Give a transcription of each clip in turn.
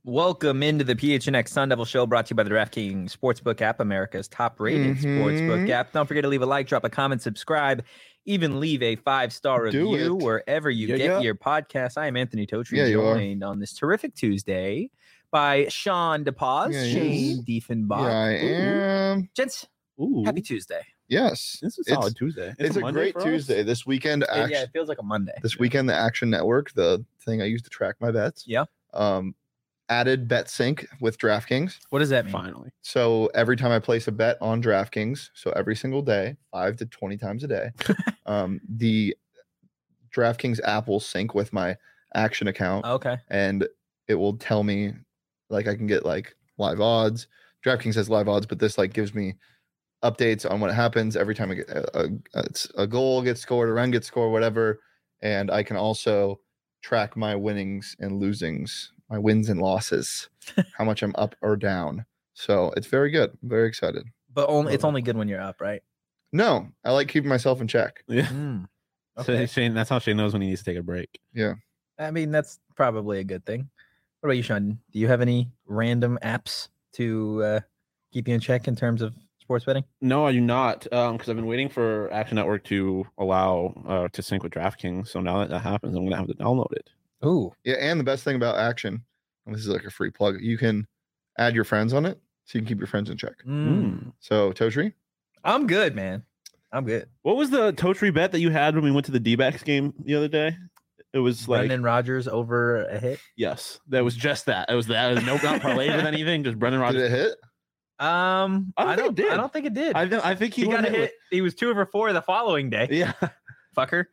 Welcome into the PHNX Sun Devil Show, brought to you by the DraftKings Sportsbook app, America's top-rated sportsbook app. Don't forget to leave a like, drop a comment, subscribe, even leave a 5-star review wherever you get your podcast. I am Anthony Totri, joined on this terrific Tuesday by Sean DePaz, Shane Diefenbach. Yeah, I am. Gents, happy Tuesday. Yes. This is a solid Tuesday. It's a great Tuesday. This weekend, Yeah, it feels like a Monday. This weekend, the Action Network, the thing I use to track my bets. Yeah. Added BetSync with DraftKings. What does that mean? Finally. So every time I place a bet on DraftKings, so every single day, 5 to 20 times a day, the DraftKings app will sync with my Action account. Okay. And it will tell me, like, I can get like live odds. DraftKings has live odds, but this like gives me updates on what happens every time I get a goal gets scored, a run gets scored, whatever. And I can also track my winnings and losings, my wins and losses, how much I'm up or down. So it's very good. I'm very excited. But it's only good when you're up, right? No, I like keeping myself in check. Yeah. Okay. So Shane, that's how Shane knows when he needs to take a break. Yeah. I mean, that's probably a good thing. What about you, Sean? Do you have any random apps to keep you in check in terms of sports betting? No, I do not, because I've been waiting for Action Network to allow to sync with DraftKings. So now that happens, I'm going to have to download it. Ooh. Yeah, and the best thing about Action, and this is like a free plug, you can add your friends on it, so you can keep your friends in check. So, Totri? I'm good, man. I'm good. What was the Totri bet that you had when we went to the D-backs game the other day? It was like Brendan Rodgers over a hit. Yes, that was just that. It was that. It was no not parlay with anything. Just Brendan Rodgers. Did it hit? I don't think it did. I think he got a hit. He was 2 for 4 the following day. Yeah, fucker.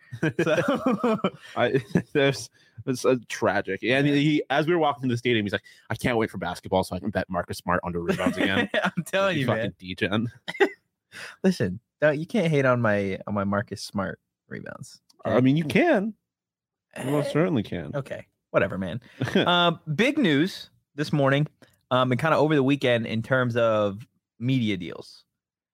So it's tragic. And he, as we were walking to the stadium, he's like, "I can't wait for basketball so I can bet Marcus Smart under rebounds again." I'm telling you, man. Fucking degen. Listen, you can't hate on my Marcus Smart rebounds. I mean, you can. You most certainly can. Okay, whatever, man. Big news this morning, and kind of over the weekend in terms of media deals.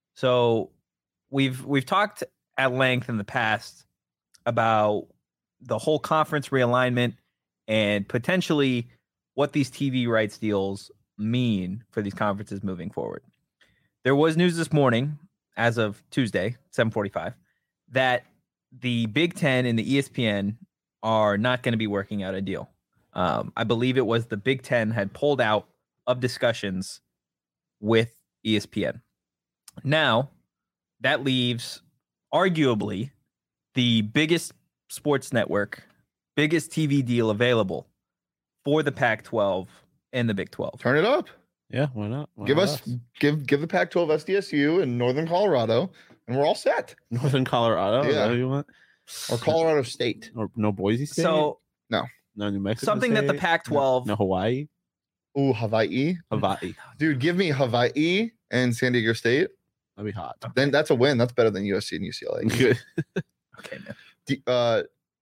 So we've talked at length in the past about the whole conference realignment and potentially what these TV rights deals mean for these conferences moving forward. There was news this morning, as of Tuesday, 7:45, that the Big Ten and the ESPN are not going to be working out a deal. I believe it was the Big Ten had pulled out of discussions with ESPN. Now, that leaves arguably the biggest sports network, biggest TV deal available for the Pac-12 and the Big 12. Turn it up. Yeah, why not? Give the Pac-12 SDSU and Northern Colorado, and we're all set. Northern Colorado? Yeah. Is that what you want? Or Colorado State. Or no Boise State? So no New Mexico something State? that the Pac-12... No Hawaii? Ooh, Hawaii. Dude, give me Hawaii and San Diego State. That'd be hot. Then that's a win. That's better than USC and UCLA. Good. Okay, man.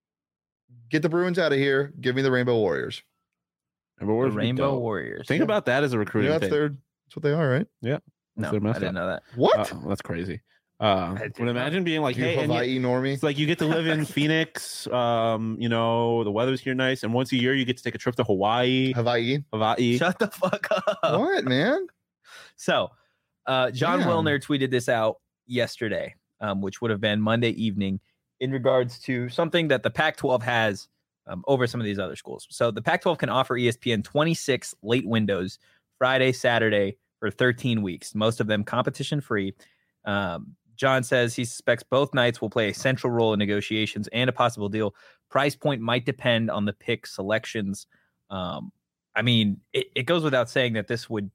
Get the Bruins out of here. Give me the Rainbow Warriors. Rainbow Warriors. Think about that as a recruiting that's thing. that's what they are, right? Yeah. No, I didn't know that. What? That's crazy. But imagine being like, hey, Hawaii normie. It's like you get to live in Phoenix. The weather's here nice, and once a year you get to take a trip to Hawaii. Hawaii. Shut the fuck up. What, man? So, John Wilner tweeted this out yesterday, which would have been Monday evening, in regards to something that the Pac-12 has over some of these other schools. So the Pac-12 can offer ESPN 26 late windows, Friday, Saturday, for 13 weeks, most of them competition-free. John says he suspects both nights will play a central role in negotiations and a possible deal. Price point might depend on the pick selections. I mean, it goes without saying that this would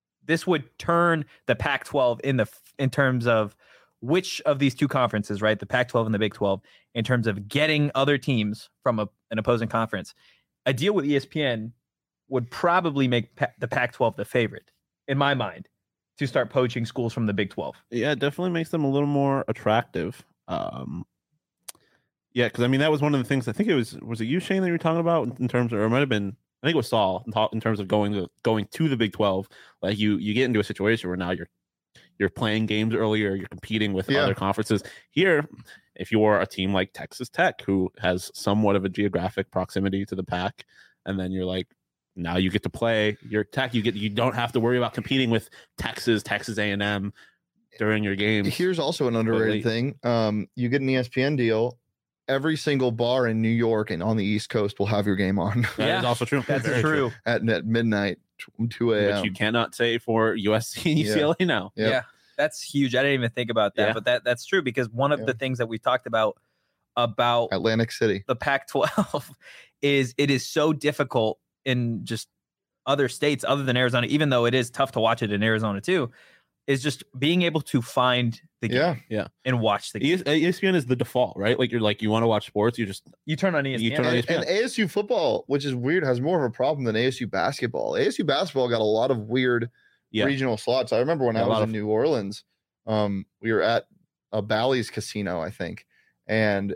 turn the Pac-12 in terms of which of these two conferences, right? The Pac-12 and the Big 12, in terms of getting other teams from an opposing conference. A deal with ESPN would probably make the Pac-12 the favorite, in my mind, to start poaching schools from the Big 12. Yeah, it definitely makes them a little more attractive. Yeah, because I mean, that was one of the things, I think it was it you, Shane, that you were talking about in terms of, or it might have been, I think it was Saul, in terms of going to the Big 12. Like you get into a situation where now you're playing games earlier, you're competing with other conferences. Here, if you're a team like Texas Tech, who has somewhat of a geographic proximity to the Pac, and then you're like, Now you get to play your Tech. You don't have to worry about competing with Texas A&M during your games. Here's also an underrated thing. You get an ESPN deal. Every single bar in New York and on the East Coast will have your game on. That is also true. That's Very true. at midnight, 2 a.m. Which you cannot say for USC and Yeah. UCLA now. Yep. Yeah, that's huge. I didn't even think about that, Yeah. but that's true because one of Yeah. the things that we talked about Atlantic City. the Pac-12 is it is so difficult in just other states other than Arizona, even though it is tough to watch it in Arizona too, is just being able to find the game Yeah. and watch the game. ESPN is the default, right? Like you want to watch sports, you You turn on ESPN. You turn on And, ESPN. and ASU football, which is weird, has more of a problem than ASU basketball. ASU basketball got a lot of weird Yeah. regional slots. I remember when Yeah, I a was lot in of- New Orleans, we were at a Bally's casino, I think, and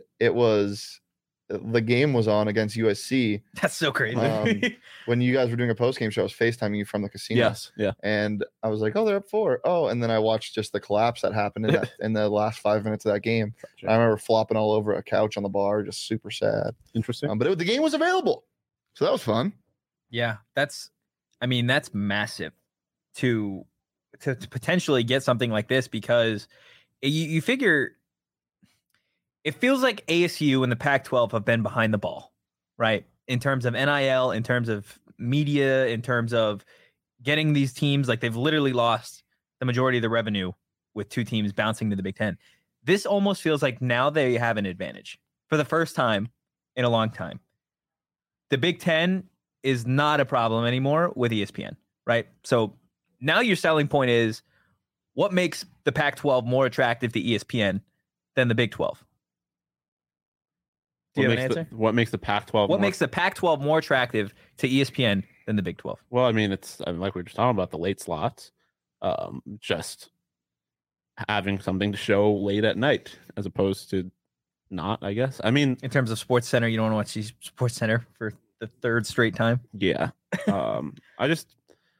the game was on against USC That's so crazy. when you guys were doing a post game show. I was FaceTiming you from the casino. Yes, yeah. And I was like, oh, they're up 4. Oh, and then I watched just the collapse that happened in the last 5 minutes of that game. I remember flopping all over a couch on the bar, just super sad. Interesting. But the game was available, so that was fun. Yeah, that's massive to potentially get something like this because you figure it feels like ASU and the Pac-12 have been behind the ball, right? In terms of NIL, in terms of media, in terms of getting these teams, like they've literally lost the majority of the revenue with 2 teams bouncing to the Big Ten. This almost feels like now they have an advantage for the first time in a long time. The Big Ten is not a problem anymore with ESPN, right? So now your selling point is what makes the Pac-12 more attractive to ESPN than the Big 12? Do you have an answer? What makes the Pac-12? What makes the Pac-12 more attractive to ESPN than the Big 12? Well, I mean, like we were just talking about the late slots, just having something to show late at night as opposed to not. I guess. I mean, In terms of Sports Center, you don't want to watch Sports Center for the 3rd straight time. yeah. I just,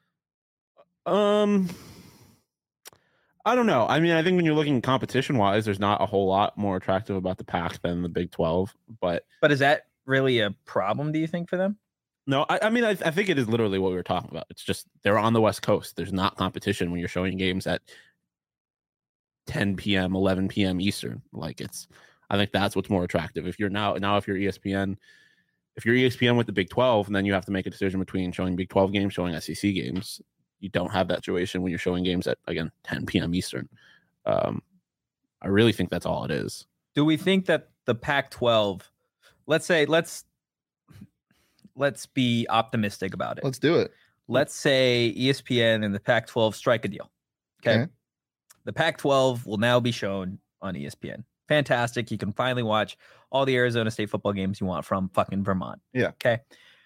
I don't know. I mean, I think when you're looking competition wise, there's not a whole lot more attractive about the Pac than the Big 12. But Is that really a problem, do you think, for them? no, I mean, I think it is literally what we were talking about. It's just they're on the West Coast. There's not competition when you're showing games at 10 p.m., 11 p.m. Eastern. Like I think that's what's more attractive. If you're if you're ESPN with the Big 12, and then you have to make a decision between showing Big 12 games, showing SEC games. You don't have that situation when you're showing games at, again, 10 p.m. Eastern. I really think that's all it is. Do we think that the Pac-12, let's be optimistic about it. Let's do it. Let's say ESPN and the Pac-12 strike a deal. Okay. The Pac-12 will now be shown on ESPN. Fantastic. You can finally watch all the Arizona State football games you want from fucking Vermont. Yeah. Okay.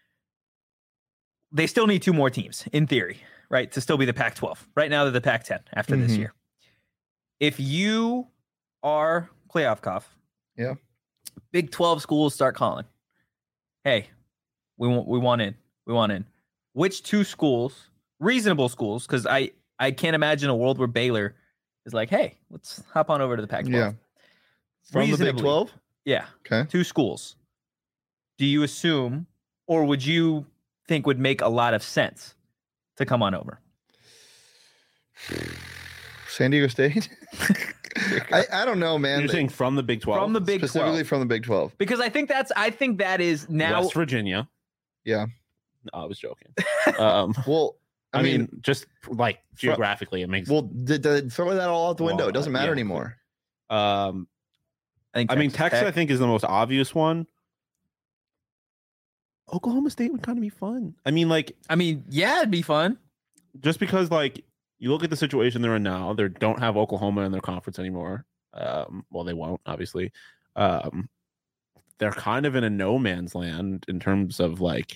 They still need 2 more teams, in theory, right? To still be the Pac-12. Right now, they're the Pac-10 after this Mhm. year. If you are playoff cough, Yeah. Big 12 schools start calling. Hey, we want in. We want in. Which 2 schools, reasonable schools, because I can't imagine a world where Baylor is like, hey, let's hop on over to the Pac-12. Yeah. From the Big Reasonably. 12? Yeah. Okay. 2 schools. Do you assume, or would you think would make a lot of sense to come on over? San Diego State? I don't know, man. You're saying from the Big 12? From the Big Specifically 12. from the Big 12. Because I think that is now. West Virginia. Yeah. No, I was joking. Well, I mean, just like geographically, it makes. well, throw that all out the window. Well, It doesn't matter yeah. anymore. I I mean, Texas, I think, is the most obvious one. Oklahoma State would kind of be fun. I mean, like, yeah, it'd be fun. just because, like, you look at the situation they're in now, they don't have Oklahoma in their conference anymore. Well, they won't, obviously. They're kind of in a no man's land in terms of like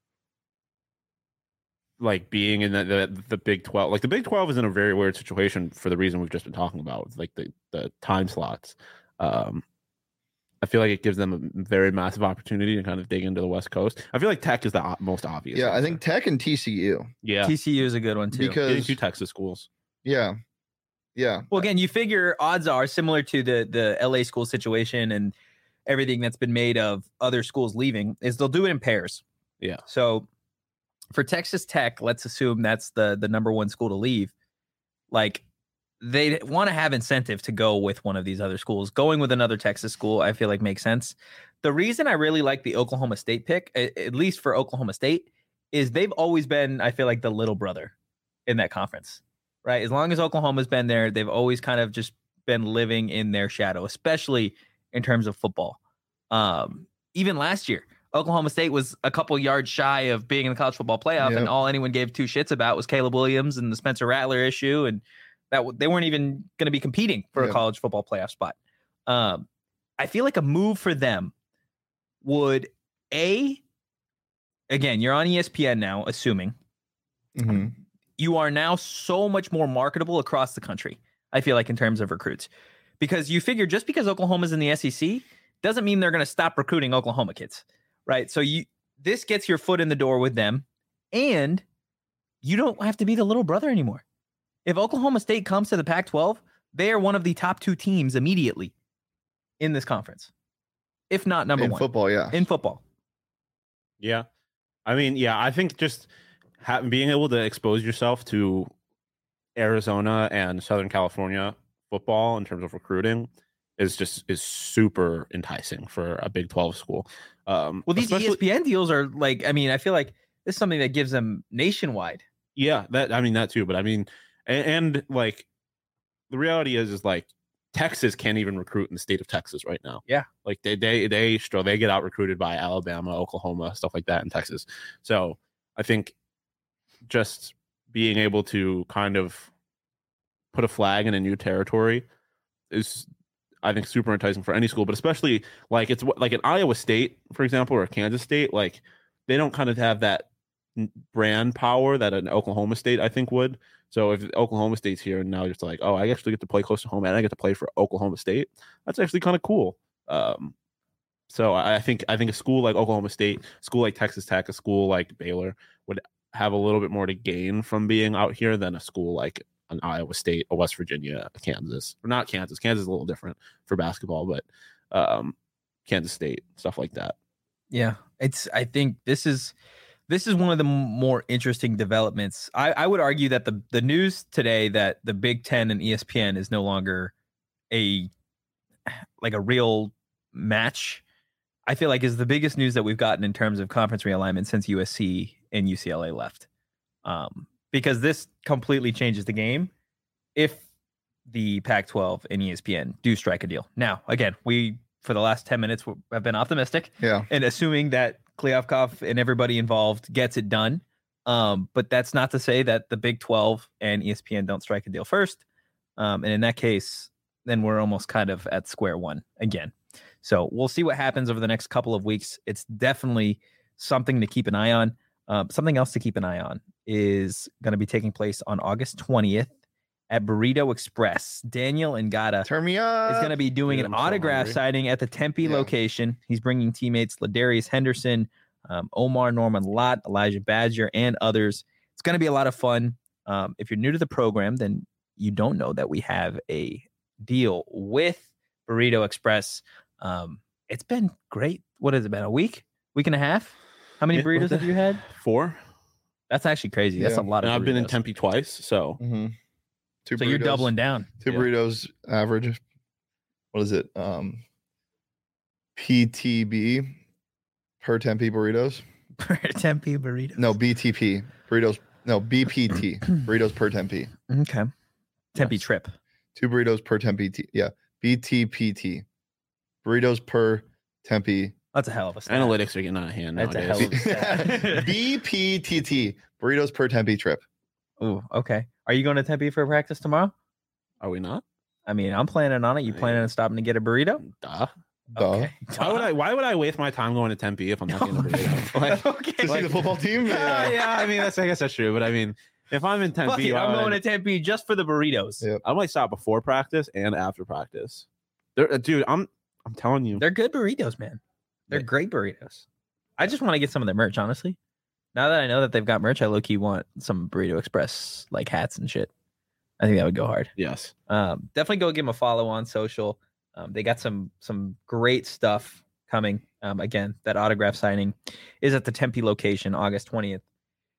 being in the Big 12. Like, the Big 12 is in a very weird situation for the reason we've just been talking about, with, like, the time slots. I feel like it gives them a very massive opportunity to kind of dig into the West Coast. I feel like Tech is the most obvious. Yeah, I answer. think Tech and TCU. Yeah, TCU is a good one too. getting Because 2 Texas schools. yeah. Well, again, you figure odds are similar to the LA school situation and everything that's been made of other schools leaving is they'll do it in pairs. Yeah. So for Texas Tech, let's assume that's the number one school to leave. Like, they want to have incentive to go with one of these other schools. Going with another Texas school, I feel like makes sense. The reason I really like the Oklahoma State pick, at least for Oklahoma State, is they've always been, I feel like, the little brother in that conference, right? As long as Oklahoma's been there, they've always kind of just been living in their shadow, especially in terms of football. Even last year, Oklahoma State was a couple yards shy of being in the college football playoff, and all anyone gave two shits about was Caleb Williams and the Spencer Rattler issue, and that they weren't even going to be competing for a college football playoff spot. I feel like a move for them would, again, you're on ESPN now, assuming you are now so much more marketable across the country, I feel like, in terms of recruits. Because you figure just because Oklahoma's in the SEC doesn't mean they're going to stop recruiting Oklahoma kids, right? So this gets your foot in the door with them, and you don't have to be the little brother anymore. If Oklahoma State comes to the Pac-12, they are one of the top two teams immediately in this conference, if not number one. In football, yeah. In football. Yeah. I mean, yeah, I think just being able to expose yourself to Arizona and Southern California football in terms of recruiting is super enticing for a Big 12 school. Well, these ESPN deals are like, I mean, I feel like this is something that gives them nationwide. Yeah, that too. But I mean, and like the reality is like Texas can't even recruit in the state of Texas right now. Yeah. Like they get out recruited by Alabama, Oklahoma, stuff like that in Texas. So I think just being able to kind of put a flag in a new territory is, I think, super enticing for any school, but especially like it's like an Iowa State, for example, or Kansas State, like they don't kind of have that brand power that an Oklahoma State, I think, would. So if Oklahoma State's here and now just like, oh, I actually get to play close to home and I get to play for Oklahoma State, that's actually kind of cool. So I think a school like Oklahoma State, a school like Texas Tech, a school like Baylor would have a little bit more to gain from being out here than a school like an Iowa State, a West Virginia, a Kansas, or not Kansas. Kansas is a little different for basketball, but Kansas State, stuff like that. Yeah, I think this is one of the more interesting developments. I would argue that the news today that the Big Ten and ESPN is no longer a real match, I feel like is the biggest news that we've gotten in terms of conference realignment since USC and UCLA left. Because this completely changes the game if the Pac-12 and ESPN do strike a deal. Now, again, we, for the last 10 minutes, have been optimistic. Yeah. And assuming that Kliavkoff and everybody involved gets it done. But that's not to say that the Big 12 and ESPN don't strike a deal first. And in that case, then we're almost kind of at square one again. So we'll see what happens over the next couple of weeks. It's definitely something to keep an eye on. Something else to keep an eye on is going to be taking place on August 20th at Burrito Express. Daniel Ngata Turn me up. is going to be doing an autograph signing at the Tempe location. He's bringing teammates Ladarius Henderson, Omar Norman Lott, Elijah Badger, and others. It's going to be a lot of fun. If you're new to the program, then you don't know that we have a deal with Burrito Express. It's been great. What has it been? A week and a half? How many burritos have you had? 4. That's actually crazy. That's a lot of burritos. I've been in Tempe twice, so. Mm-hmm. So you're doubling down. 2 burritos average. What is it? PTB per Tempe burritos. Per Tempe burritos. No, BTP burritos. No, BPT burritos per Tempe. Okay. Tempe trip. 2 burritos per Tempe. Yeah, BTPT burritos per Tempe. That's a hell of a stat. Analytics are getting out of hand. That's nowadays. a hell of a stat. BPTT burritos per Tempe trip. Ooh, okay. Are you going to Tempe for practice tomorrow? Are we not? I mean, I'm planning on it. You planning on stopping to get a burrito? Duh. Okay. Why would I waste my time going to Tempe if I'm not getting a burrito? Like, okay. To see the football team? Yeah, I mean, I guess that's true. But I mean, if I'm in Tempe, I'm going to Tempe just for the burritos. Yep. I might stop before practice and after practice. Dude, I'm telling you, They're good burritos, man. They're great burritos. I just want to get some of their merch, honestly. Now that I know that they've got merch, I low-key want some Burrito Express like hats and shit. I think that would go hard. Yes. Definitely go give them a follow on social. They got some great stuff coming. Again, that autograph signing is at the Tempe location, August 20th.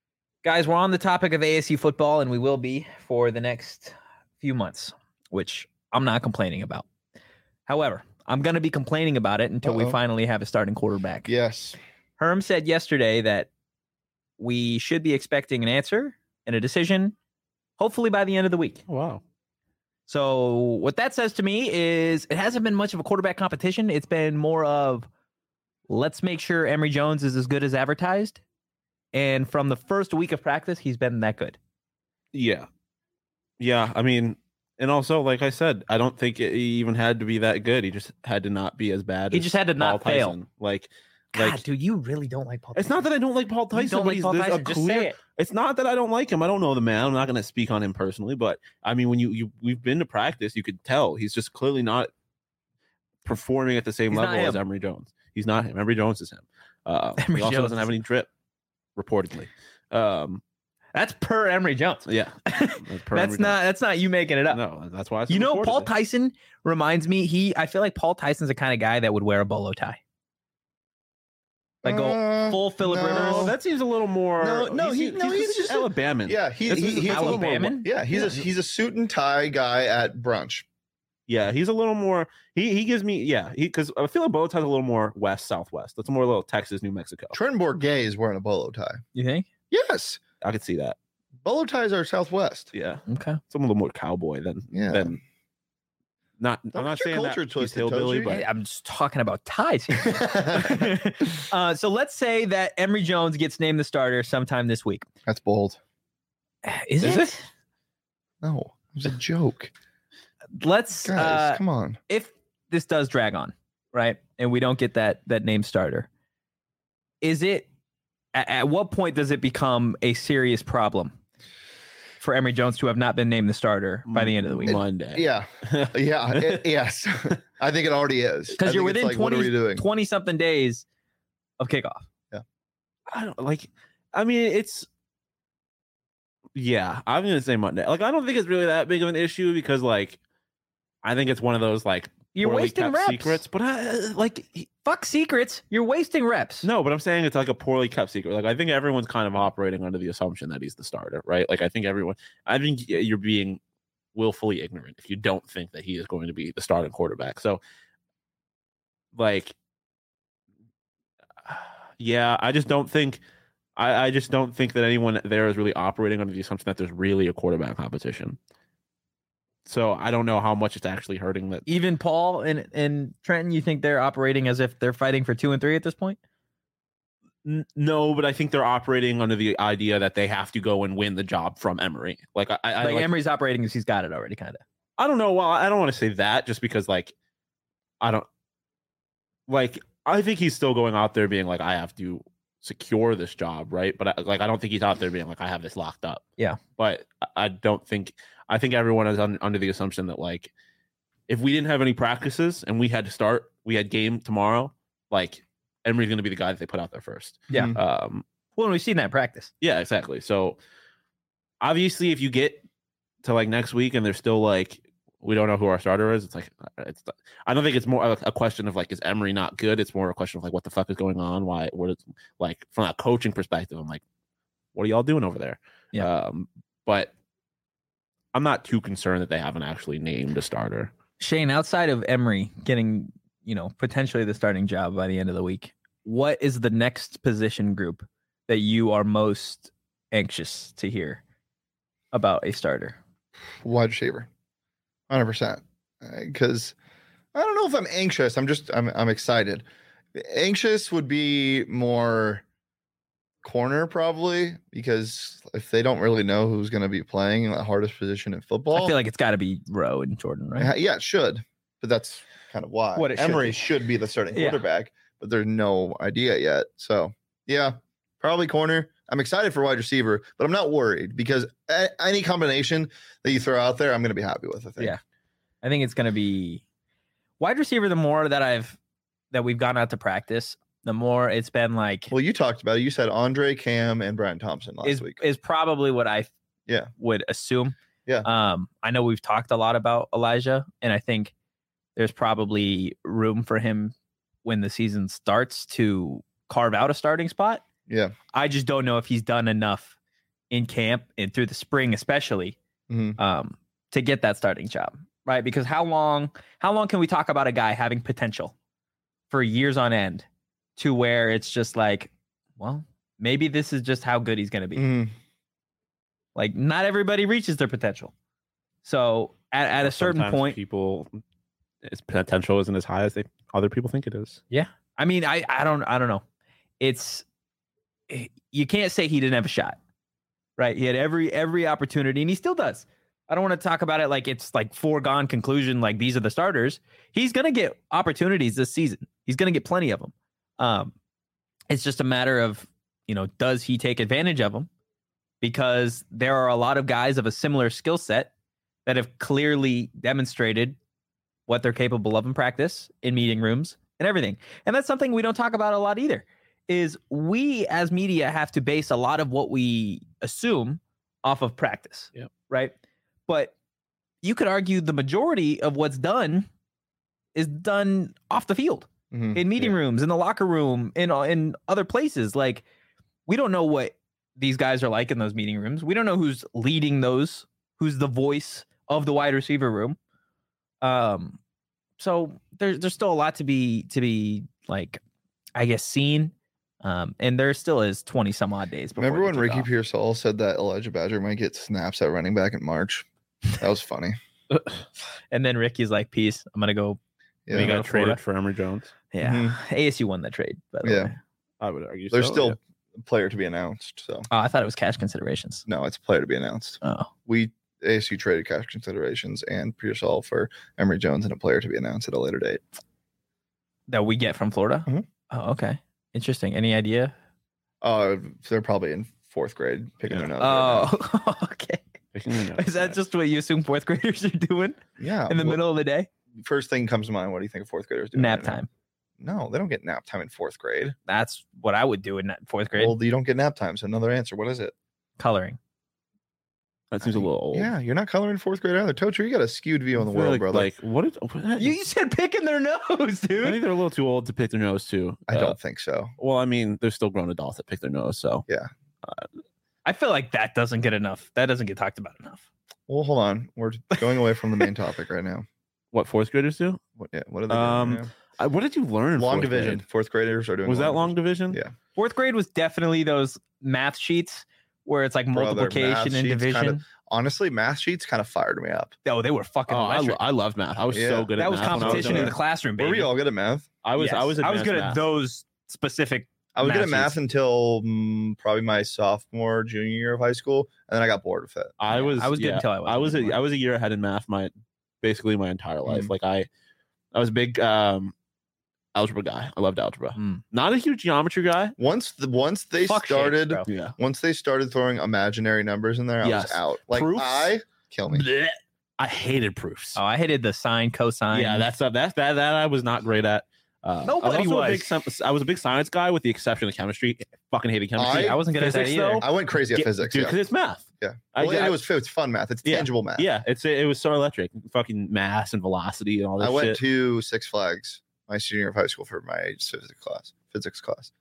Guys, we're on the topic of ASU football, and we will be for the next few months, which I'm not complaining about. However, I'm going to be complaining about it until we finally have a starting quarterback. Yes. Herm said yesterday that we should be expecting an answer and a decision, hopefully by the end of the week. Oh, wow. So what that says to me is it hasn't been much of a quarterback competition. It's been more of let's make sure Emory Jones is as good as advertised. And from the first week of practice, he's been that good. Yeah. Yeah. I mean, and also, like I said, I don't think he even had to be that good. He just had to not be as bad. He just had to not fail. Tyson. Like, dude, you really don't like Paul Tyson. It's not that I don't like Paul Tyson. You don't like Paul Tyson. Just say it. It's not that I don't like him. I don't know the man. I'm not going to speak on him personally, but I mean, when we've been to practice, you could tell he's just clearly not performing at the same level as Emory Jones. He's not him. Emory Jones is him. He also doesn't have any drip, reportedly. That's per Emory Jones. Yeah, that's not you making it up. No, that's why. Paul Tyson reminds me. I feel like Paul Tyson's the kind of guy that would wear a bolo tie. Like go full Phillip Rivers. Well, that seems a little more. He's just Alabama. Yeah, he's Alabama. Yeah, he's a suit and tie guy at brunch. Yeah, he's a little more. He gives me because I feel like bow tie's a little more west southwest. That's more a little Texas, New Mexico. Trent Bourget is wearing a bolo tie. You think? Yes, I could see that. Bolo ties are Southwest. Yeah. Okay. It's a little more cowboy than. Not. I'm not saying that he's hillbilly, but I'm just talking about ties here. So let's say that Emory Jones gets named the starter sometime this week. That's bold. Is it? No, it was a joke. Let's guys, come on. If this does drag on, right, and we don't get that name starter, is it at what point does it become a serious problem for Emory Jones to have not been named the starter by the end of the week? Monday. Yeah. Yes. I think it already is. Because you're within 20 something days of kickoff. Yeah. I don't like. I mean, it's. Yeah, I'm gonna say Monday. Like, I don't think it's really that big of an issue because, like, I think it's one of those like you're wasting reps. Secrets, but fuck secrets. You're wasting reps. No, but I'm saying it's like a poorly kept secret. Like, I think everyone's kind of operating under the assumption that he's the starter, right? Like, I think you're being willfully ignorant if you don't think that he is going to be the starting quarterback. So, like, yeah, I just don't think that anyone there is really operating under the assumption that there's really a quarterback competition. So I don't know how much it's actually hurting that. Even Paul and Trenton, you think they're operating as if they're fighting for 2 and 3 at this point? No, but I think they're operating under the idea that they have to go and win the job from Emory. Like Emory's operating as he's got it already, kind of. I don't know. Well, I don't want to say that just because, like, I think he's still going out there being like, I have to secure this job, right? But I don't think he's out there being like, I have this locked up. Yeah. But I think everyone is under the assumption that, like, if we didn't have any practices and we had game tomorrow, like, Emory's going to be the guy that they put out there first. Yeah. Well, we've seen that in practice. Yeah, exactly. So obviously, if you get to like next week and they're still like, we don't know who our starter is, I don't think it's more a question of like, is Emory not good? It's more a question of like, what the fuck is going on? Like, from a coaching perspective, I'm like, what are y'all doing over there? Yeah. But I'm not too concerned that they haven't actually named a starter. Shane, outside of Emory getting, potentially the starting job by the end of the week, what is the next position group that you are most anxious to hear about a starter? Wide receiver, 100%. Because I don't know if I'm anxious. I'm excited. Anxious would be more corner probably, because if they don't really know who's going to be playing the hardest position in football, I feel like it's got to be Rowe and Jordan, right? Yeah, it should, but that's kind of why Emory should be the starting quarterback, but there's no idea yet. So yeah, probably corner. I'm excited for wide receiver, but I'm not worried because any combination that you throw out there, I'm going to be happy with. I think. Yeah, I think it's going to be wide receiver. The more that we've gone out to practice, the more it's been like. Well, you talked about it. You said Andre, Cam, and Brian Thompson last week. Is probably what I would assume. Yeah. I know we've talked a lot about Elijah, and I think there's probably room for him when the season starts to carve out a starting spot. Yeah. I just don't know if he's done enough in camp and through the spring, especially, Mhm. to get that starting job, right? Because how long can we talk about a guy having potential for years on end to where it's just like, well, maybe this is just how good he's going to be. Mhm. Like, not everybody reaches their potential. So at a certain Sometimes point, people, its potential isn't as high as other people think it is. yeah. I mean, I don't know. You can't say he didn't have a shot, right? He had every opportunity, and he still does. I don't want to talk about it like it's like foregone conclusion, like these are the starters. He's going to get opportunities this season. He's going to get plenty of them. It's just a matter of, does he take advantage of them? Because there are a lot of guys of a similar skill set that have clearly demonstrated what they're capable of in practice, in meeting rooms, and everything. And that's something we don't talk about a lot either, is we as media have to base a lot of what we assume off of practice. Yep. Right? But you could argue the majority of what's done is done off the field, Mhm. in meeting rooms, in the locker room, in other places. Like, we don't know what these guys are like in those meeting rooms. We don't know who's leading those, who's the voice of the wide receiver room. So there's still a lot to be like, I guess, seen. And there still is 20 some odd days before. Remember when they kick Ricky off. Pearsall said that Elijah Badger might get snaps at running back in March? That was funny. And then Ricky's like, peace, I'm gonna go. Yeah. We go got to Florida. traded for Emory Jones. Yeah. Mhm. ASU won that trade, by the Yeah. way. I would argue There's so, still yeah. a player to be announced. So Oh, I thought it was cash considerations. no, it's a player to be announced. Oh. ASU traded cash considerations and Pearsall for Emory Jones and a player to be announced at a later date. That we get from Florida? Mhm. Oh, okay. Interesting. Any idea? They're probably in fourth grade picking Yeah. their nose. right Oh, okay. Picking the nose, Is that nice. just what you assume fourth graders are doing now. Yeah. in the middle of the day? First thing comes to mind. What do you think a fourth grader's doing? Nap right now? time. No, they don't get nap time in fourth grade. That's what I would do in fourth grade. Well, you don't get nap time. So another answer. What is it? Coloring. That seems a little old. Yeah, you're not coloring in fourth grade either. Tocher, you got a skewed view on the I feel world, like, brother. Like, what is, You said picking their nose, I think dude. they're a little too old to pick their nose too. I don't think so. Well, I mean, there's still grown adults that pick their nose. So I feel like that doesn't get enough. That doesn't get talked about enough. Well, hold on. We're going away from the main topic right now. what fourth graders do? What are they doing right now? What did you learn? in Long fourth division. grade? Fourth graders are doing. Was that long division? Yeah. Fourth grade was definitely those math sheets where it's like Brother, multiplication math and sheets division. kinda- Honestly, math sheets kind of fired me up. Oh, they were fucking Oh, electric. I loved math. I was Yeah. so good at That was math when I competition in younger. the classroom, Were baby. we all good at math? I was Yes. I was good advanced at math. those specific. I was good Math at math sheets. until probably my sophomore, junior year of high school, and then I got bored with it. I was good yeah, until I wasn't anymore. I was a year ahead in math basically my entire life. Mm. Like I was a big algebra guy. I loved algebra. Mm. Not a huge geometry guy. Once they Fuck shapes, started, bro. Yeah. once they started throwing imaginary numbers in there, I Yes. was out. Like Proofs? kill me. Blech. I hated proofs. Oh, I hated the sine, cosine. Yeah, that I was not great at. Nobody I was a big science guy with the exception of chemistry. Fucking hated chemistry. I wasn't good at that Physics, either. though, I went crazy at physics. dude, Yeah, because it's math. yeah. I- Well, I- it's fun math. It's Yeah. tangible math. Yeah, it was so electric. Fucking mass and velocity and all this I went shit. to Six Flags my senior year of high school for my physics class.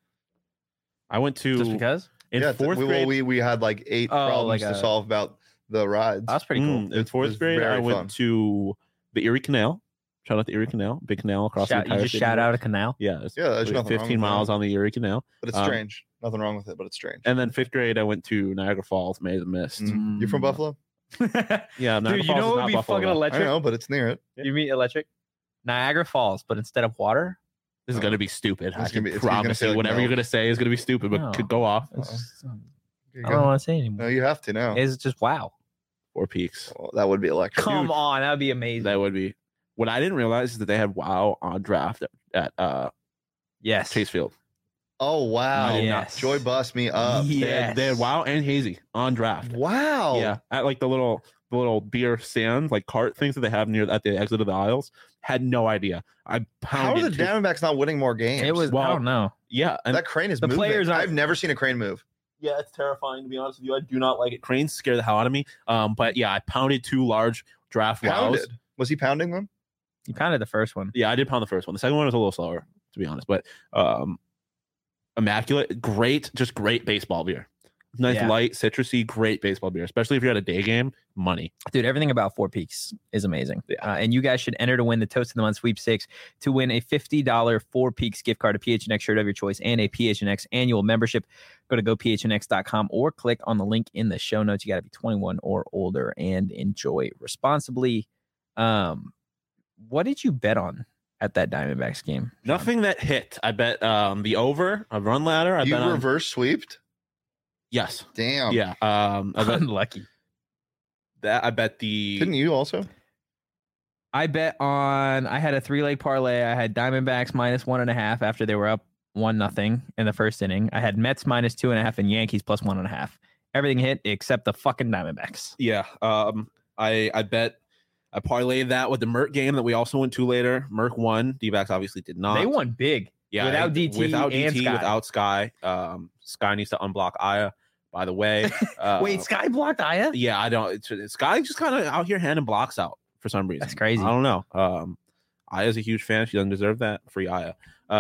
I went to Just because? in yeah, fourth grade. we had like 8 Oh, problems like to a- solve about the rides. That's pretty cool. In It fourth was grade, I very went fun. to the Erie Canal. Shout out the Erie Canal, big canal across the You entire just city. shout out a canal. Yeah, it's Yeah, there's like nothing wrong 15 with that. miles on the Erie Canal. But it's Um, strange. Nothing wrong with it, but it's strange. And then fifth grade, I went to Niagara Falls, May the Mist. Mm. You from Buffalo? Yeah, Niagara Dude, you Falls know is what would not be Buffalo, fucking though. I electric? know, but it's near it. You mean electric? Niagara Falls, but instead of water, This is gonna be stupid. I It's can gonna be- it's gonna promise say, you, like, whatever you're milk. gonna say is gonna be stupid, but No. could go off. it's, Here you I go. don't want to say anymore. No, you have to now. It's just wow. Four Peaks. Well, that would be electric. Come on, that would be amazing. That would be. What I didn't realize is that they had WoW on draft at Yes. Chase Field. Oh wow! Yes. Joy bust me up. Yes. They had WoW and Hazy on draft. Wow. Yeah, at like the little beer stand like cart things that they have near at the exit of the aisles. Had no idea. I How are pounded. the Diamondbacks not winning more games? It was. I Well, don't know. Yeah, and that crane is the moving. players aren't- I've never seen a crane move. yeah, it's terrifying to be honest with you. I do not like it. Cranes scare the hell out of me. But yeah, I pounded 2 large draft wows. Pounded. Was he pounding them? You pounded the first one. Yeah, I did pound the first one. The second one was a little slower, to be honest. But immaculate, great, just great baseball beer. Nice Yeah. light, citrusy, great baseball beer, especially if you're at a day game. Money. Dude, everything about Four Peaks is amazing. Yeah. And you guys should enter to win the Toast of the Month sweepstakes to win a $50 Four Peaks gift card, a PHNX shirt of your choice, and a PHNX annual membership. Go to gophnx.com or click on the link in the show notes. You got to be 21 or older and enjoy responsibly. What did you bet on at that Diamondbacks game? Sean? Nothing that hit. I bet the over, a run ladder. I You bet on, reverse sweeped? yes. Damn. Yeah. I bet Unlucky. that. I bet the. Couldn't you also? I bet on. I had a 3-leg parlay. I had Diamondbacks minus 1.5 after they were up 1-0 in the first inning. I had Mets minus 2.5 and Yankees plus 1.5. Everything hit except the fucking Diamondbacks. Yeah. I bet I parlayed that with the Merck game that we also went to later. Merck won. D-backs obviously did not. They won big. Yeah, without DT without and DT, Sky. without Sky. Sky needs to unblock Aya. By the way, Wait, Sky blocked Aya? yeah, I don't. Sky just kind of out here handing blocks out for some reason. That's crazy. I don't know. Aya's a huge fan. She doesn't deserve that. Free Aya.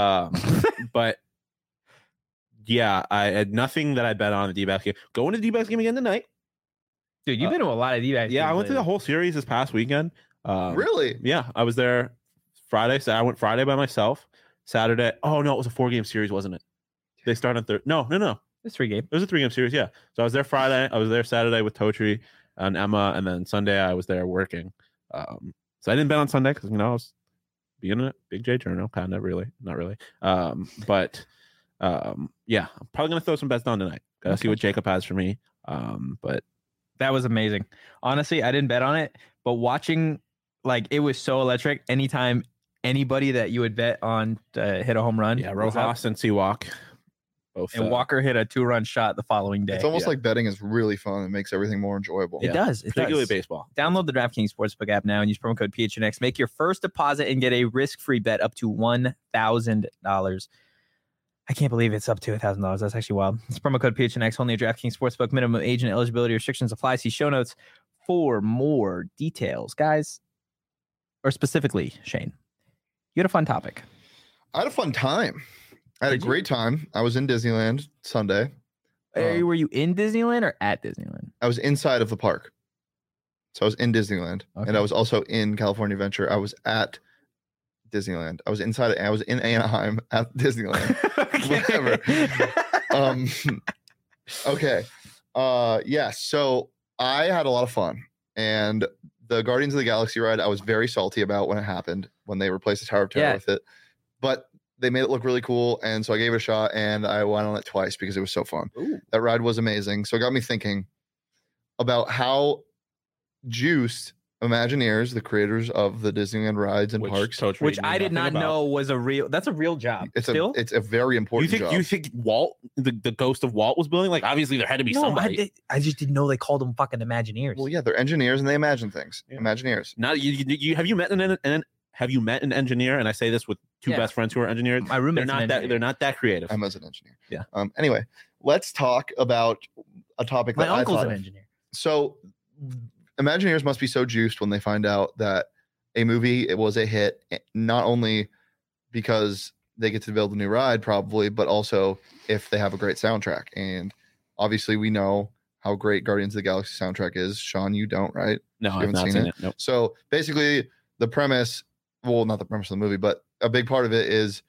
But yeah, I had nothing that I bet on the D-backs game. Going to the D-backs game again tonight. Dude, you've been to a lot of D-backs. Yeah, I games went to the lately. whole series this past weekend. Really? Yeah, I was there Friday. So I went Friday by myself. Saturday. Oh no, it was a 4-game series, wasn't it? They started on third. No. It's 3 game. It was a 3-game series. Yeah. So I was there Friday. I was there Saturday with Totri and Emma, and then Sunday I was there working. So I didn't bet on Sunday because I was being a Big J journal, kind of really, not really. But yeah, I'm probably gonna throw some bets down tonight. Gotta see what Jacob has for me. But That was amazing. Honestly, I didn't bet on it, but watching, like, it was so electric. Anytime anybody that you would bet on hit a home run, yeah, was up, Rojas and Seawalk. Both. and Walker hit a 2-run shot the following day. It's almost Yeah. like betting is really fun. It makes everything more enjoyable. It does. It particularly does. baseball. Download the DraftKings Sportsbook app now and use promo code PHNX. Make your first deposit and get a risk-free bet up to $1,000. I can't believe it's up to $1,000. That's actually wild. It's promo code PHNX only at DraftKings Sportsbook. Minimum age and eligibility restrictions apply. See show notes for more details, guys. Or specifically, Shane, you had a fun topic. I had a fun time. I had Did a you? great time. I was in Disneyland Sunday. Were you in Disneyland or at Disneyland? I was inside of the park. So I was in Disneyland. Okay. And I was also in California Adventure. I was at Disneyland. I was inside. I was in Anaheim at Disneyland. Whatever. Okay. Yeah. So I had a lot of fun. And the Guardians of the Galaxy ride, I was very salty about when it happened, when they replaced the Tower of Terror Yeah. with it. But they made it look really cool. And so I gave it a shot and I went on it twice because it was so fun. Ooh. That ride was amazing. So it got me thinking about how juiced Imagineers, the creators of the Disneyland rides and parks, Totri Which knew I did nothing not about. know was a real. That's a real job. it's Still, a very You important think job. you think Walt, the ghost of Walt, was building? Like obviously there had to be somebody. I just didn't know they called them fucking Imagineers. Well, yeah, they're engineers and they imagine things. Yeah. Imagineers. Now you have you met an engineer? And I say this with two Yeah. best friends who are engineers. My roommate's They're an not that. engineer. They're not that creative. Emma's an engineer. Yeah. Anyway, let's talk about a topic My that I uncle's thought an of. engineer. So Imagineers must be so juiced when they find out that a movie it was a hit, not only because they get to build a new ride probably, but also if they have a great soundtrack. And obviously we know how great Guardians of the Galaxy soundtrack is. Sean, you don't, right? No, You I've haven't not seen seen it? it. Nope. So basically the premise, well, not the premise of the movie, but a big part of it is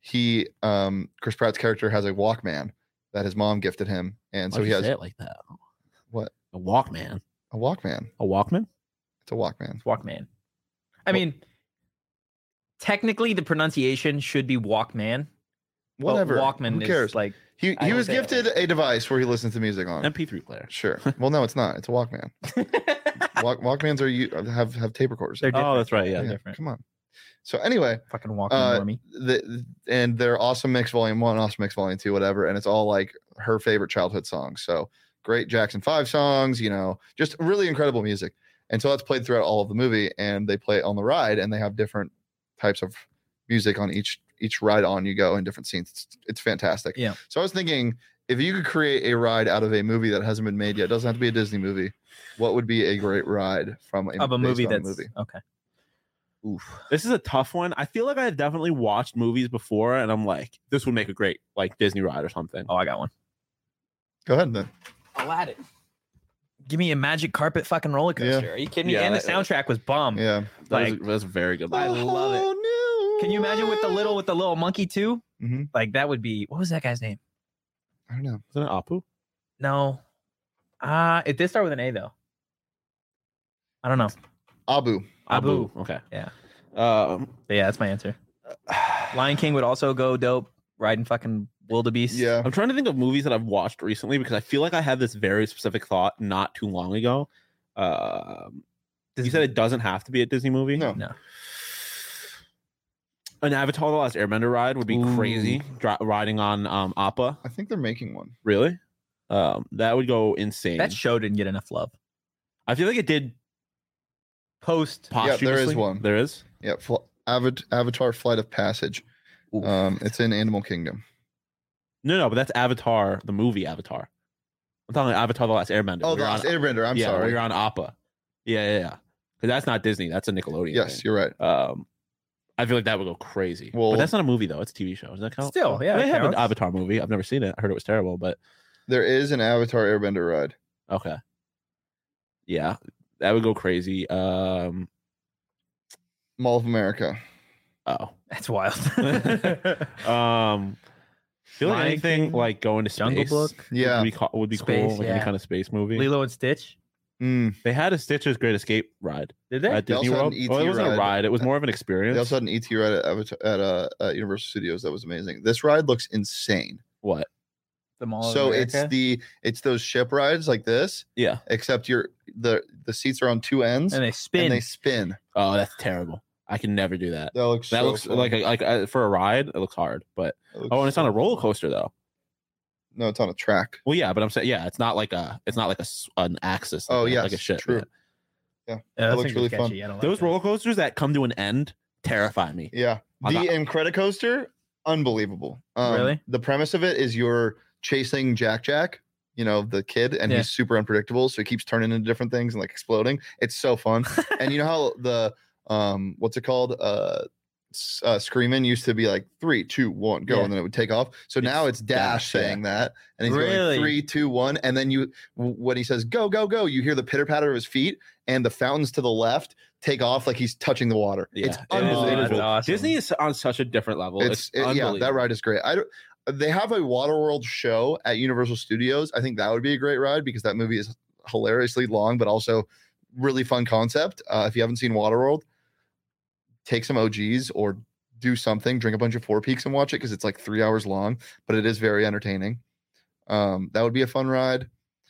Chris Pratt's character has a Walkman that his mom gifted him. And so Why'd he you has say it like that. what? A Walkman. A Walkman. A Walkman. It's a Walkman. Walkman. I Well- mean, technically the pronunciation should be Walkman. but Whatever. Walkman Who cares? is like He I don't was say it gifted a device where he listens to music on. MP3 player. Sure. Well, no, it's not. It's a Walkman. Walkmans have tape recorders. they're different. Oh, that's right. Yeah. They're different. Come on. So anyway, Fucking Walkman Uh, normie. and they're awesome mix volume 1, awesome mix volume 2, whatever, and it's all like her favorite childhood songs. So great Jackson 5 songs, just really incredible music. And so that's played throughout all of the movie, and they play it on the ride, and they have different types of music on each ride on you go in different scenes. It's fantastic. Yeah. So I was thinking, if you could create a ride out of a movie that hasn't been made yet, it doesn't have to be a Disney movie, what would be a great ride from Of a movie based on that's okay. Oof. This is a tough one. I feel like I've definitely watched movies before, and I'm like, this would make a great like Disney ride or something. Oh, I got one. Go ahead then. Aladdin. Give me a magic carpet fucking roller coaster. Yeah. Are you kidding me? Yeah, And the that- soundtrack was bomb. Yeah. That was a very good. I Movie. love it. Oh, no. Can you imagine with the little monkey too? Mhm. Like that would be, what was that guy's name? I don't know. Wasn't it Apu? No. It did start with an A though. I don't know. Abu. Abu. Okay. Yeah. Um. But yeah, that's my answer. Lion King would also go dope. Riding fucking wildebeest. Yeah. I'm trying to think of movies that I've watched recently because I feel like I had this very specific thought not too long ago. You said it doesn't have to be a Disney movie. No. No. An Avatar: The Last Airbender ride would be Ooh. crazy. Riding on Appa. I think they're making one. Really? That would go insane. That show didn't get enough love. I feel like it did Post. Yeah, there is posthumously. one. There is. Yeah. Avatar Flight of Passage. Oof. It's in Animal Kingdom. No, but that's Avatar, the movie Avatar. I'm talking Avatar: The Last Airbender. Oh, where the you're Last on- Airbender. I'm yeah, where sorry. you're on Appa. Yeah. Because that's not Disney. That's a Nickelodeon. Yes, thing. you're right. I feel like that would go crazy. Well- but that's not a movie though. It's a TV show. Does that count? Still, yeah, They it have an counts. Avatar movie. I've never seen it. I heard it was terrible, but There is an Avatar Airbender ride. okay. Yeah, that would go crazy. Mall of America. Oh. That's wild. Feel like Lion anything King, like going to space Jungle Book, Yeah. would be Space, cool. Like yeah. any kind of space movie. Lilo and Stitch. Mm. They had a Stitch's Great Escape ride Did they? at Disney also had World. an Well, it ET wasn't a ride. ride. It was more of an experience. They also had an ET ride at Universal Studios that was amazing. This ride looks insane. What? The Mall of So America? it's those ship rides like this, Yeah. except the seats are on two ends and they spin. and they spin. Oh, that's terrible. I can never do that. That looks That so looks fun. like for a ride. It looks hard, but That looks oh, and it's on so a roller fun. coaster though. No, it's on a track. Well, yeah, but I'm saying yeah, it's not like an axis. Oh, like yes, a ship. true. yeah. that looks really fun. I don't like Those that. roller coasters that come to an end terrify me. Yeah. I The got- Incredicoaster, unbelievable. Really? The premise of it is you're chasing Jack, the kid, and Yeah. he's super unpredictable. So he keeps turning into different things and like exploding. It's so fun. And you know how the what's it called? Screaming used to be like 3, 2, 1, go, Yeah. and then it would take off. So now it's Dash Dash, yeah. saying that, and he's Really? going 3, 2, 1, and then when he says go, go, go, you hear the pitter patter of his feet, and the fountains to the left take off like he's touching the water. Yeah, It's it is- Oh, unbelievable. that's awesome. Disney is on such a different level. It's Yeah, unbelievable. that ride is great. They have a Waterworld show at Universal Studios. I think that would be a great ride because that movie is hilariously long, but also really fun concept. If you haven't seen Waterworld, take some OGs or do something, drink a bunch of Four Peaks and watch it because it's like 3 hours long, but it is very entertaining. That would be a fun ride.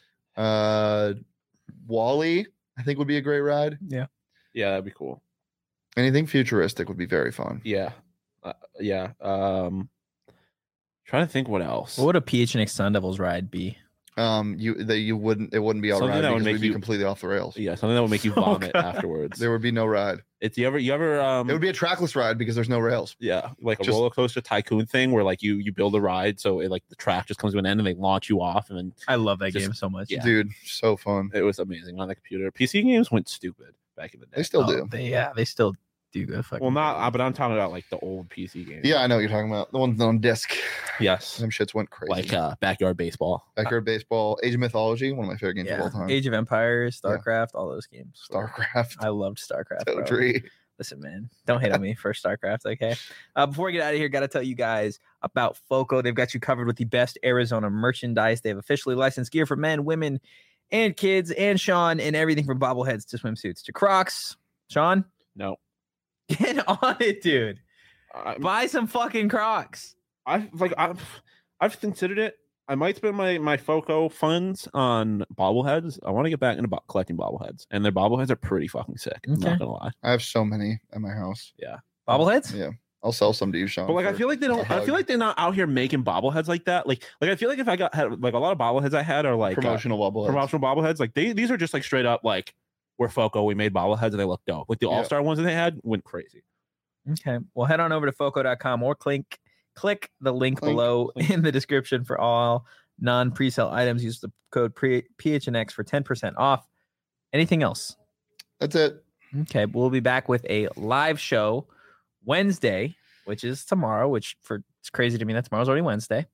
Wall-E, I think would be a great ride. Yeah, that'd be cool. Anything futuristic would be very fun. Yeah, yeah. Trying to think what else. What would a PHNX Sun Devils ride be? It wouldn't be all Something right that would because make we'd be you- completely off the rails. Yeah, something that would make you Oh, vomit God. afterwards. There would be no ride. It's you ever It would be a trackless ride because there's no rails. yeah, like a Just- roller coaster tycoon thing where like you build a ride so it like the track just comes to an end and they launch you off and then I love that Just- game so much. Yeah. Dude, so fun. it was amazing on the computer. PC games went stupid back in the day. They still Oh, do. they still do go fucking. well, not but I'm talking about like the old PC games. Yeah, I know what you're talking about. The ones on disc. Yes. Them shits went crazy. Like backyard baseball. Backyard Baseball, Age of Mythology, one of my favorite games of yeah. all time. Age of Empires, Yeah. StarCraft, all those games. StarCraft, I loved StarCraft. Bro. Totally. Listen, man, don't hate on me for StarCraft, okay? Before we get out of here, got to tell you guys about FOCO. They've got you covered with the best Arizona merchandise. They have officially licensed gear for men, women, and kids, and Sean, and everything from bobbleheads to swimsuits to Crocs. Sean, No. get on it, dude. Buy some fucking Crocs. I've considered it. I might spend my FOCO funds on bobbleheads. I want to get back into collecting bobbleheads, and their bobbleheads are pretty fucking sick. I'm Okay. not gonna lie. I have so many at my house. Bobbleheads? Yeah. I'll sell some to you, Sean. But like, I for feel like they a don't. I hug. feel like they're not out here making bobbleheads like that. Like I feel like if I had like a lot of bobbleheads I had are like promotional bobbleheads. promotional bobbleheads. Like these are just like straight up like we're FOCO. We made bobbleheads and they look dope. Like the Yeah. all-star ones that they had went crazy. Okay. Well, head on over to foco.com or click the link Clink, below clink. in the description for all non-presale items. Use the code PHNX for 10% off. Anything else? That's it. Okay. We'll be back with a live show Wednesday, which is tomorrow, it's crazy to me that tomorrow's already Wednesday.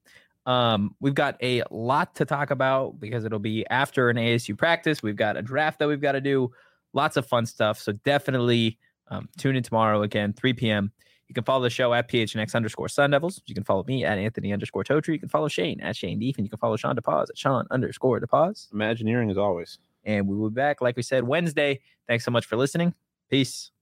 We've got a lot to talk about because it'll be after an ASU practice. We've got a draft that we've got to do. Lots of fun stuff. So definitely tune in tomorrow again, 3 p.m. You can follow the show at PHNX_Sun Devils. You can follow me at Anthony_Totri. You can follow Shane at Shane Deef. And you can follow Sean DePaz at Sean_DePaz. Imagineering as always. And we will be back, like we said, Wednesday. Thanks so much for listening. Peace.